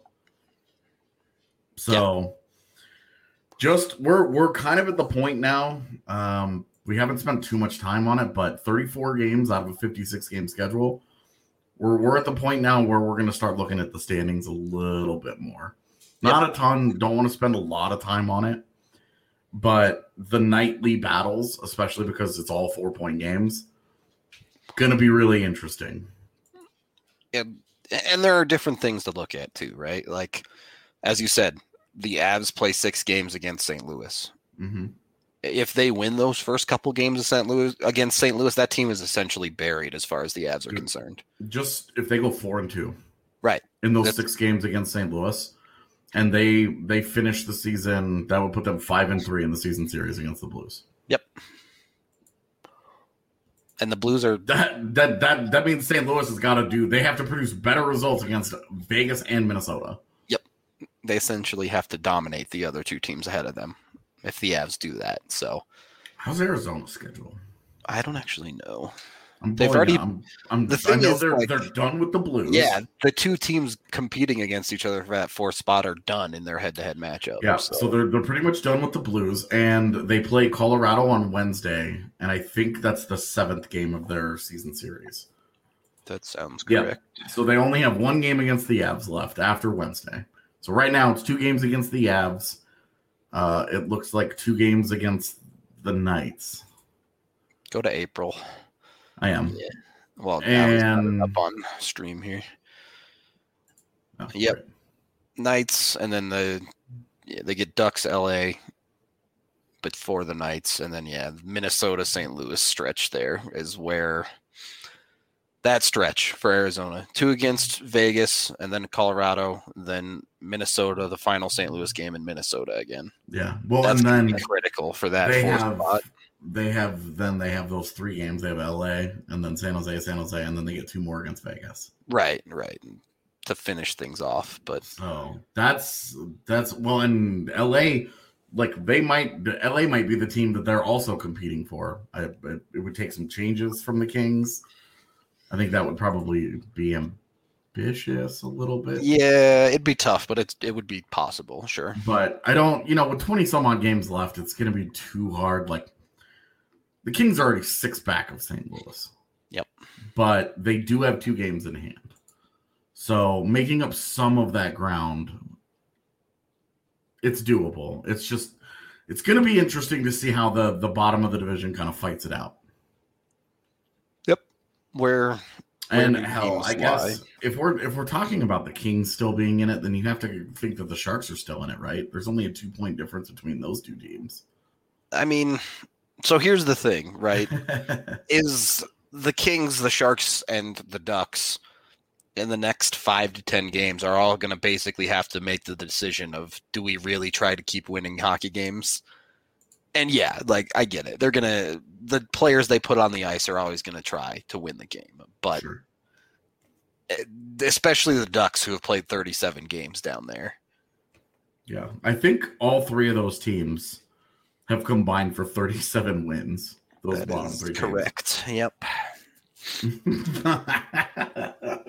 S2: So, yep. just we're we're kind of at the point now. Um, we haven't spent too much time on it, but thirty-four games out of a fifty-six game schedule. We're we're at the point now where we're going to start looking at the standings a little bit more. Not yep. a ton. Don't want to spend a lot of time on it, but the nightly battles, especially because it's all four point games, going to be really interesting.
S3: And and there are different things to look at too, right? Like, as you said, the Avs play six games against Saint Louis.
S2: Mm-hmm.
S3: If they win those first couple games of Saint Louis against Saint Louis, that team is essentially buried as far as the Avs are concerned.
S2: Just if they go four and two,
S3: right,
S2: in those
S3: That's,
S2: six games against Saint Louis, and they they finish the season, that would put them five and three in the season series against the Blues.
S3: Yep. And the Blues are
S2: that that that that means Saint Louis has got to do. They have to produce better results against Vegas and Minnesota.
S3: They essentially have to dominate the other two teams ahead of them if the Avs do that. So,
S2: how's Arizona's schedule?
S3: I don't actually know.
S2: I'm They've already. I'm, I'm,
S3: the thing
S2: I know
S3: is,
S2: they're
S3: like,
S2: they're done with the Blues.
S3: Yeah, the two teams competing against each other for that fourth spot are done in their head-to-head matchup.
S2: Yeah,
S3: so.
S2: so they're they're pretty much done with the Blues, and they play Colorado on Wednesday, and I think that's the seventh game of their season series.
S3: That sounds correct.
S2: Yeah. So they only have one game against the Avs left after Wednesday. So right now it's two games against the Avs. Uh, it looks like two games against the Knights.
S3: Go to April.
S2: I am.
S3: Yeah. Well,
S2: and
S3: up on stream here.
S2: Oh,
S3: yep.
S2: Right.
S3: Knights, and then the yeah, they get Ducks, L A, but for the Knights, and then yeah, Minnesota, Saint Louis stretch there is where. That stretch for Arizona. Two against Vegas, and then Colorado, then Minnesota, the final Saint Louis game in Minnesota again.
S2: Yeah. Well,
S3: That's
S2: and then
S3: critical for that
S2: they
S3: fourth
S2: have,
S3: spot.
S2: They have then they have those three games. They have L A and then San Jose, San Jose, and then they get two more against Vegas.
S3: Right, right. To finish things off. But
S2: so that's that's well, and L A, like they might L A might be the team that they're also competing for. I, it, it would take some changes from the Kings. I think that would probably be ambitious a little bit.
S3: Yeah, it'd be tough, but it's it would be possible, sure.
S2: But I don't, you know, with twenty some odd games left, it's going to be too hard. Like the Kings are already six back of Saint Louis.
S3: Yep.
S2: But they do have two games in hand. So making up some of that ground, it's doable. It's just, it's going to be interesting to see how the, the bottom of the division kind of fights it out.
S3: Where,
S2: where and hell, I guess lie. if we're if we're talking about the Kings still being in it, then you have to think that the Sharks are still in it, right? There's only a two point difference between those two teams.
S3: I mean, so here's the thing, right? Is the Kings, the Sharks, and the Ducks in the next five to ten games are all going to basically have to make the decision of, do we really try to keep winning hockey games? And yeah, like I get it. They're going to, the players they put on the ice are always going to try to win the game. But
S2: sure.
S3: Especially the Ducks, who have played thirty-seven games down there.
S2: Yeah. I think all three of those teams have combined for thirty-seven wins. Those
S3: that
S2: bottom
S3: is
S2: three
S3: correct.
S2: Teams.
S3: Yep.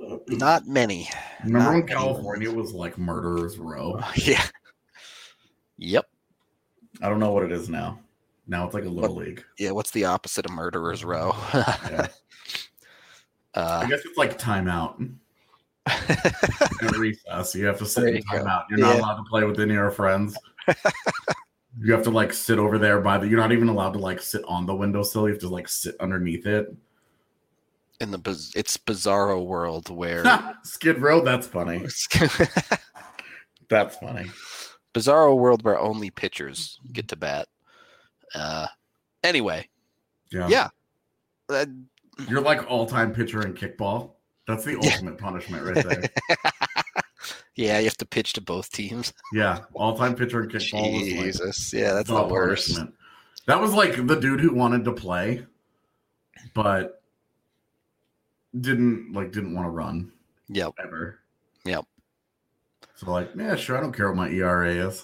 S3: Not many.
S2: Remember
S3: Not
S2: when
S3: many.
S2: California was like Murderers Row?
S3: Yeah. Yep.
S2: I don't know what it is now. Now it's like a little
S3: What-
S2: league.
S3: Yeah. What's the opposite of Murderers Row?
S2: Yeah.
S3: uh,
S2: I guess it's like timeout. At recess, you have to sit
S3: There
S2: in
S3: you go.
S2: timeout. You're not
S3: Yeah.
S2: allowed to play with any of your friends. You have to like sit over there by the. You're not even allowed to like sit on the windowsill. You have to like sit underneath it.
S3: in the biz- it's bizarro world where
S2: Skid Row. That's funny. That's funny.
S3: bizarro world where only pitchers get to bat. Uh, anyway,
S2: Yeah.
S3: yeah. Uh,
S2: You're like all-time pitcher in kickball. That's the
S3: Yeah.
S2: ultimate punishment right there.
S3: yeah, you have to pitch to both teams.
S2: Yeah, all-time pitcher in kickball was like
S3: Jesus, yeah, that's
S2: the
S3: the worst.
S2: punishment. That was like the dude who wanted to play, but didn't like didn't want to run
S3: Yep.
S2: ever.
S3: Yep.
S2: So like, yeah, sure, I don't care what my E R A is.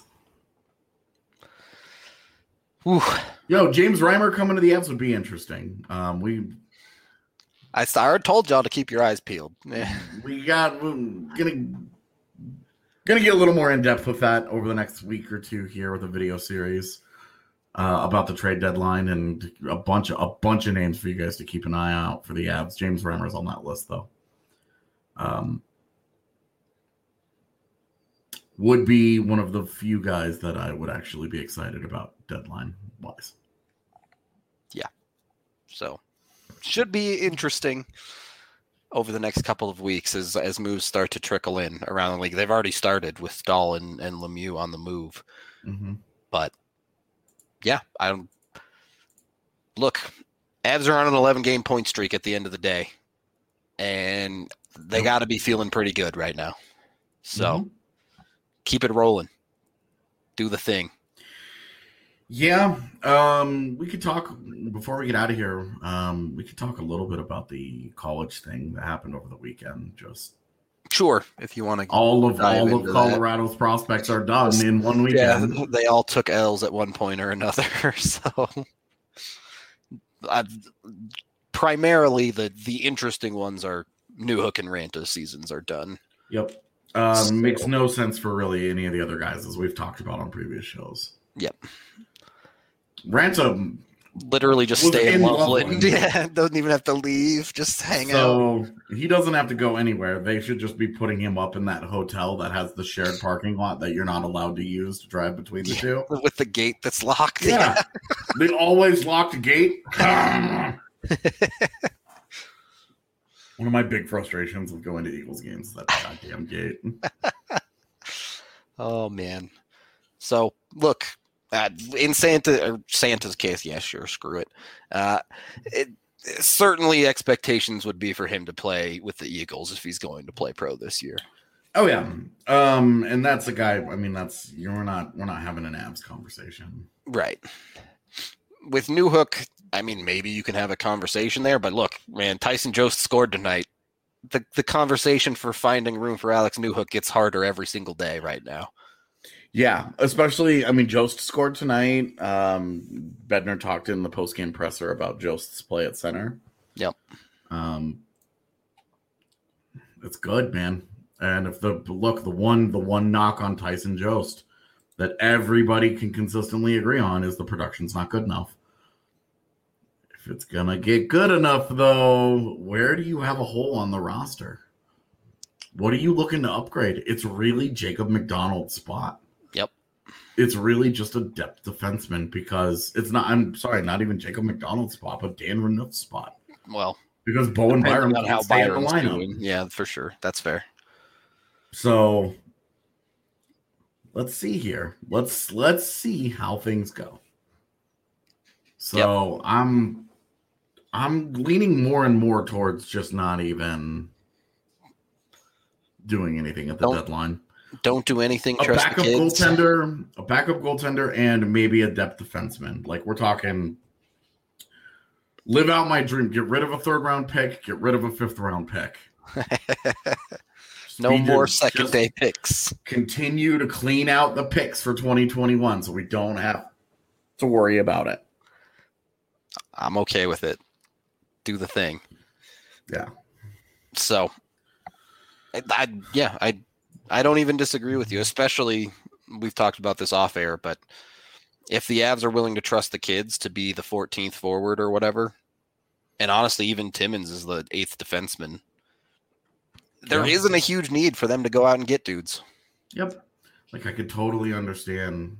S3: Whew.
S2: Yo, James Reimer coming to the Avs would be interesting. Um, we
S3: I, s- I already told y'all to keep your eyes peeled. Yeah.
S2: we got we're gonna gonna get a little more in depth with that over the next week or two here with a video series uh, about the trade deadline and a bunch of a bunch of names for you guys to keep an eye out for the Avs. James Reimer's on that list though. Um, would be one of the few guys that I would actually be excited about deadline wise.
S3: So should be interesting over the next couple of weeks as as moves start to trickle in around the league. They've already started with Stahl and, and Lemieux on the move.
S2: Mm-hmm.
S3: But yeah, I don't look. Avs are on an eleven game point streak at the end of the day, and they got to be feeling pretty good right now. So
S2: Mhm.
S3: keep it rolling. Do the thing.
S2: Yeah, um, we could talk before we get out of here. Um, we could talk a little bit about the college thing that happened over the weekend. Just
S3: Sure, if you want to.
S2: all of
S3: Dive
S2: all
S3: into
S2: of
S3: that.
S2: Colorado's prospects are done in one
S3: Yeah,
S2: weekend.
S3: they all took L's at one point or another. So, I've, primarily the the interesting ones are Newhook and Ranta's seasons are done.
S2: Yep, um,
S3: So-
S2: makes no sense for really any of the other guys as we've talked about on previous shows.
S3: Yep.
S2: Ransom.
S3: Literally just
S2: Was
S3: stay in
S2: in
S3: Loveland.
S2: Loveland.
S3: Yeah, doesn't even have to leave. Just hang out.
S2: So he doesn't have to go anywhere. They should just be putting him up in that hotel that has the shared parking lot that you're not allowed to use to drive between the two.
S3: With the gate that's locked.
S2: Yeah. They always lock the gate. One of my big frustrations with going to Eagles games is that goddamn gate.
S3: Oh man. So look, uh, in Santa or Santa's case, yeah, sure, screw it. Uh, it. Certainly, expectations would be for him to play with the Eagles if he's going to play pro this year.
S2: Oh yeah, um, and that's a guy. I mean, that's you know, we're not we're not having an abs conversation,
S3: Right. With Newhook, I mean, maybe you can have a conversation there, but look, man, Tyson Jost scored tonight. The the conversation for finding room for Alex Newhook gets harder every single day right now.
S2: Yeah, especially, I mean, Jost scored tonight. Um, Bednar talked in the post-game presser about Jost's play at center.
S3: Yep.
S2: Um, it's good, man. And if the look, the one, the one knock on Tyson Jost that everybody can consistently agree on is the production's not good enough. If it's gonna get good enough, though, where do you have a hole on the roster? What are you looking to upgrade? It's really Jacob McDonald's spot.
S3: Yep.
S2: It's really just a depth defenseman because it's not, I'm sorry, not even Jacob McDonald's spot, but Dan Renault's spot.
S3: Well,
S2: Because Bowen Byram
S3: depending on
S2: can't
S3: how
S2: stay in the
S3: Byron's
S2: lineup.
S3: doing. Yeah, for sure. That's fair.
S2: So let's see here. Let's let's see how things go. So I'm I'm leaning more and more towards just not even doing anything at the
S3: Don't-
S2: deadline.
S3: Don't do anything.
S2: A
S3: Trust
S2: backup
S3: the kids.
S2: goaltender, a backup goaltender, and maybe a depth defenseman. Like we're talking, live out my dream. Get rid of a third round pick. Get rid of a fifth round pick.
S3: No
S2: Speed
S3: more
S2: it.
S3: second
S2: Just
S3: day picks.
S2: Continue to clean out the picks for twenty twenty-one, so we don't have to worry about it.
S3: I'm okay with it. Do the thing.
S2: Yeah.
S3: So, I, I yeah, I I don't even disagree with you. Especially, we've talked about this off air, but if the Avs are willing to trust the kids to be the fourteenth forward or whatever, and honestly, even Timmins is the eighth defenseman, there
S2: Yep.
S3: isn't a huge need for them to go out and get dudes.
S2: Yep. Like I could totally understand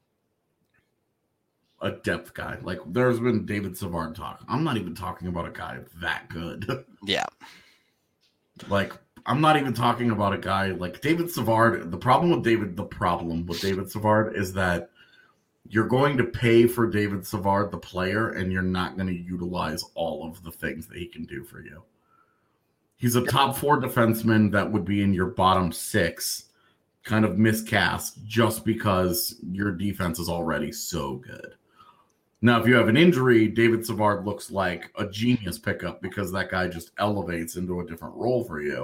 S2: a depth guy. Like there's been David Savard talk. I'm not even talking about a guy that good.
S3: Yeah.
S2: Like I'm not even talking about a guy like David Savard. The problem with David, the problem with David Savard is that you're going to pay for David Savard, the player, and you're not going to utilize all of the things that he can do for you. He's a top four defenseman that would be in your bottom six, kind of miscast just because your defense is already so good. Now, if you have an injury, David Savard looks like a genius pickup because that guy just elevates into a different role for you.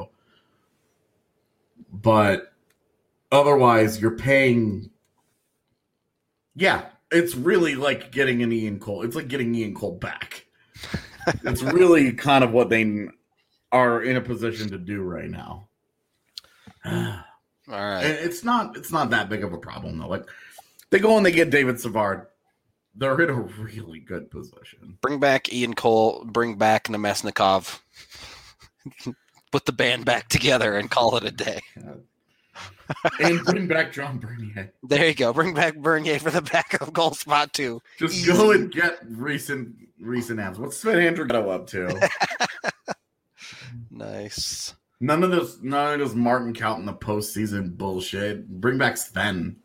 S2: But otherwise, you're paying. Yeah, it's really like getting an Ian Cole. It's like getting Ian Cole back. It's really kind of what they are in a position to do right now.
S3: All right.
S2: And it's not. It's not that big of a problem though. Like they go and they get David Savard. They're in a really good position.
S3: Bring back Ian Cole. Bring back Nemesnikov. Put the band back together and call it a day.
S2: And bring back John Bernier.
S3: There you go. Bring back Bernier for the backup goal spot too.
S2: Just
S3: Easy.
S2: go and get recent recent apps. What's Sven Andrighetto up to?
S3: Nice.
S2: None of this, none of this Martin count in the postseason bullshit. Bring back Sven.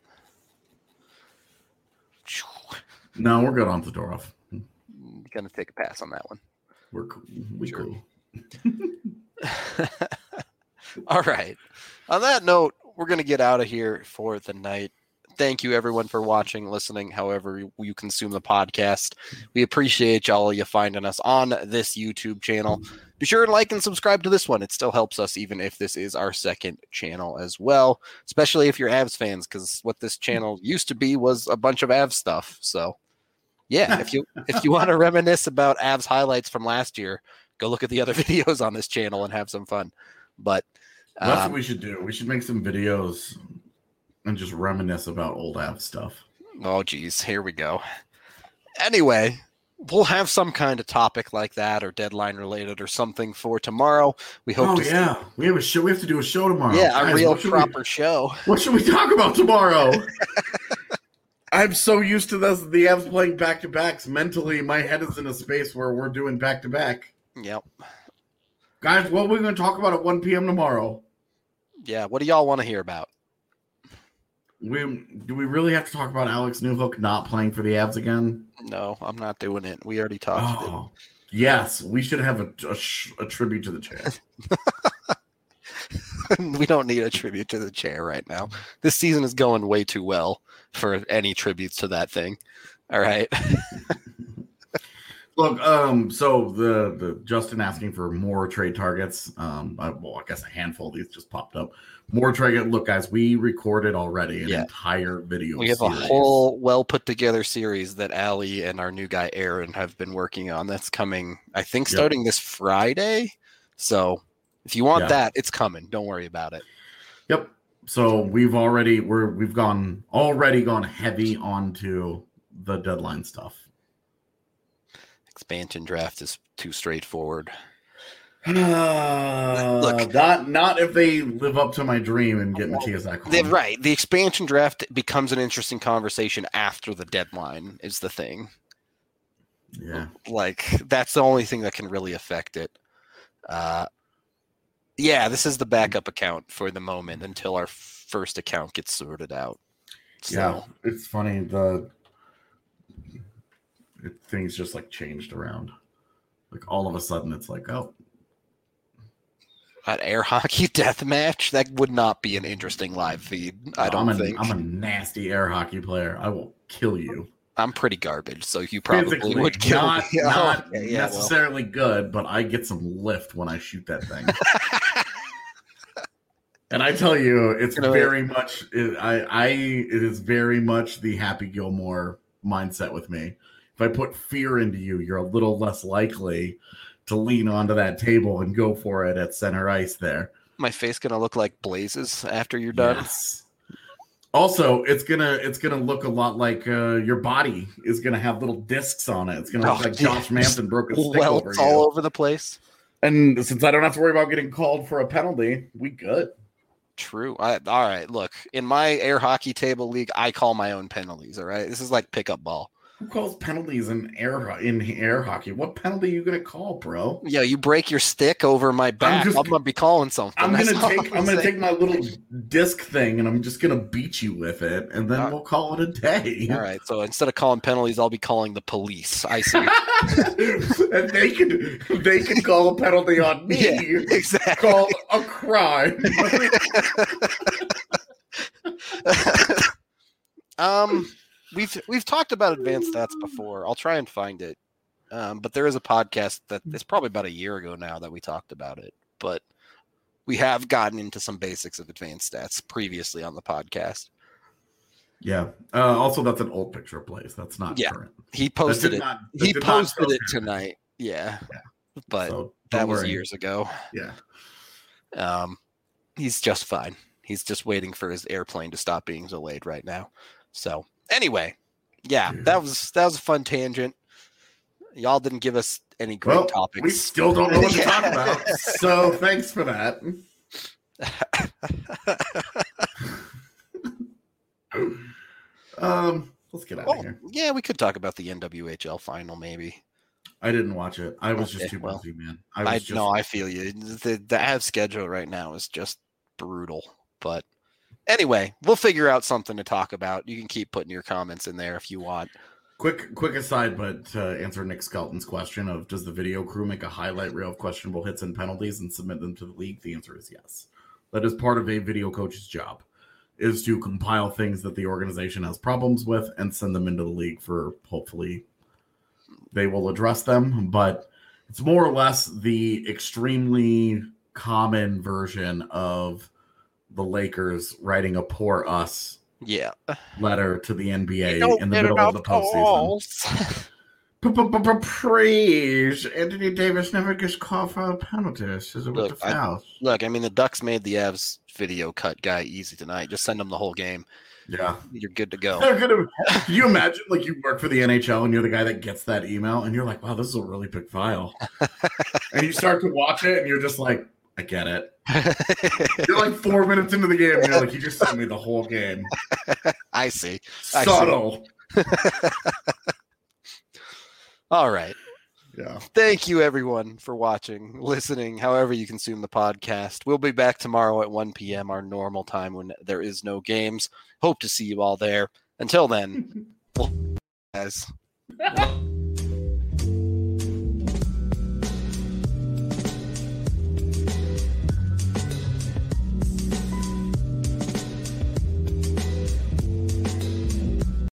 S2: No, we're good on Zadorov.
S3: Gonna take a pass on that one.
S2: We're cool. We
S3: Sure.
S2: cool.
S3: All right. On that note, we're going to get out of here for the night. Thank you, everyone, for watching, listening, however you- you consume the podcast. We appreciate all of you finding us on this YouTube channel. Be sure and like and subscribe to this one. It still helps us, even if this is our second channel as well, especially if you're Avs fans, because what this channel used to be was a bunch of Avs stuff. So, yeah, if you if you want to reminisce about Avs highlights from last year, go look at the other videos on this channel and have some fun. But
S2: That's
S3: um,
S2: what we should do. We should make some videos and just reminisce about old Avs stuff.
S3: oh, geez, here we go. Anyway, we'll have some kind of topic like that or deadline related or something for tomorrow. We hope
S2: Oh
S3: to
S2: yeah, we have a show. We have to do a show tomorrow.
S3: yeah, a
S2: Guys,
S3: real
S2: what should
S3: proper
S2: We,
S3: show.
S2: what should we talk about tomorrow? I'm so used to this, the Avs playing back to backs. Mentally, my head is in a space where we're doing back to back.
S3: Yep.
S2: Guys, what are we going to talk about at one p.m. tomorrow?
S3: Yeah. What do y'all want to hear about?
S2: We do we really have to talk about Alex Newhook not playing for the Avs again?
S3: No, I'm not doing it. We already talked.
S2: Oh, yes, we should have a, a, sh- a tribute to the chair.
S3: We don't need a tribute to the chair right now. This season is going way too well for any tributes to that thing. All right.
S2: Look, um, so the the Justin asking for more trade targets. Um, I, well, I guess a handful of these just popped up. More trade. Look, guys, we recorded already an
S3: Yeah.
S2: entire video.
S3: We have
S2: series.
S3: a whole well put together series that Allie and our new guy Aaron have been working on. That's coming, I think,
S2: Yep.
S3: starting this Friday. So if you want
S2: Yeah.
S3: that, it's coming. Don't worry about it.
S2: Yep. So we've already we're we've gone already gone heavy onto the deadline stuff.
S3: Expansion draft is too straightforward.
S2: Look, not not if they live up to my dream and get Matthias Ekholm.
S3: They're right. The expansion draft becomes an interesting conversation after the deadline is the thing.
S2: Yeah.
S3: Like, that's the only thing that can really affect it. Uh, yeah, this is the backup account for the moment until our first account gets sorted out. So,
S2: Yeah, it's funny. The it, things just like changed around. Like all of a sudden, it's like, oh,
S3: an air hockey death match, that would not be an interesting live feed. I don't
S2: I'm a,
S3: think.
S2: I'm a nasty air hockey player. I will kill you.
S3: I'm pretty garbage, so you probably
S2: Physically,
S3: would kill
S2: not,
S3: me.
S2: not
S3: Oh, yeah, well.
S2: necessarily good, but I get some lift when I shoot that thing. And I tell you, it's
S3: You know,
S2: very much. It, I, I, it is very much the Happy Gilmore mindset with me. If I put fear into you, you're a little less likely to lean onto that table and go for it at center ice there.
S3: My face gonna look like blazes after you're done.
S2: Yes. Also, it's gonna it's gonna look a lot like uh, your body is gonna have little discs on it. It's gonna look
S3: Oh,
S2: like
S3: yeah.
S2: Josh Manson broke a stick
S3: Welts
S2: over you.
S3: all over the place.
S2: And since I don't have to worry about getting called for a penalty, we good.
S3: True. I, all right. Look, in my air hockey table league, I call my own penalties. All right. This is like pickup ball.
S2: Who calls penalties in air ho- in air hockey? What penalty are you gonna call, bro?
S3: Yeah, you break your stick over my back. I'm,
S2: just-
S3: gonna be calling something.
S2: I'm
S3: That's
S2: gonna
S3: all
S2: take I'm gonna
S3: saying.
S2: take my little disc thing and I'm just gonna beat you with it, and then
S3: Uh,
S2: we'll call it a day.
S3: All right. So instead of calling penalties, I'll be calling the police. I see.
S2: And they can they can call a penalty on me.
S3: Yeah, exactly.
S2: Call a crime.
S3: um, we've we've talked about advanced stats before. I'll try and find it. Um, but there is a podcast that it's probably about a year ago now that we talked about it. But we have gotten into some basics of advanced stats previously on the podcast.
S2: Yeah. Uh, also, that's an old picture of Blaze. That's not
S3: Yeah.
S2: current.
S3: He
S2: That
S3: posted
S2: did
S3: it.
S2: not- that
S3: He
S2: did not
S3: posted
S2: show
S3: it
S2: current.
S3: tonight. Yeah.
S2: Yeah.
S3: But
S2: So,
S3: that
S2: don't
S3: was
S2: worry.
S3: years ago.
S2: Yeah.
S3: Um, he's just fine. He's just waiting for his airplane to stop being delayed right now. So anyway, yeah,
S2: Dude.
S3: that was that was a fun tangent. Y'all didn't give us any great
S2: Well,
S3: topics.
S2: we still don't know what to
S3: Yeah.
S2: talk about. So thanks for that. Um, let's get out
S3: Oh,
S2: of here.
S3: yeah, we could talk about the N W H L final, maybe.
S2: I didn't watch it. I was just
S3: Okay,
S2: too
S3: well,
S2: busy, man.
S3: I,
S2: I was just
S3: no, I feel you. The the Avs schedule right now is just brutal. But anyway, we'll figure out something to talk about. You can keep putting your comments in there if you want.
S2: quick quick aside, but to answer Nick Skelton's question of does the video crew make a highlight reel of questionable hits and penalties and submit them to the league? The answer is yes. That is part of a video coach's job, is to compile things that the organization has problems with and send them into the league for hopefully they will address them. But it's more or less the extremely common version of the Lakers writing a poor us
S3: Yeah.
S2: letter to the N B A
S3: Don't
S2: in the
S3: get
S2: middle of
S3: enough
S2: the postseason.
S3: goals.
S2: Praise Anthony Davis never gets called for a penalty. Is it with
S3: Look,
S2: the
S3: I-
S2: fouls?
S3: Look, I mean, the Ducks made the Avs video cut guy easy tonight. Just send them the whole game.
S2: Yeah.
S3: You're good to go.
S2: They're gonna, can you imagine, like, you work for the N H L and you're the guy that gets that email and you're like, wow, this is a really big file. And you start to watch it and you're just like, I get it. You're like four minutes into the game and you're like, you just sent me the whole game.
S3: I see. I see.
S2: Subtle.
S3: All right.
S2: Yeah.
S3: Thank you, everyone, for watching, listening, however you consume the podcast. We'll be back tomorrow at one p.m., our normal time when there is no games. Hope to see you all there. Until then, we'll- as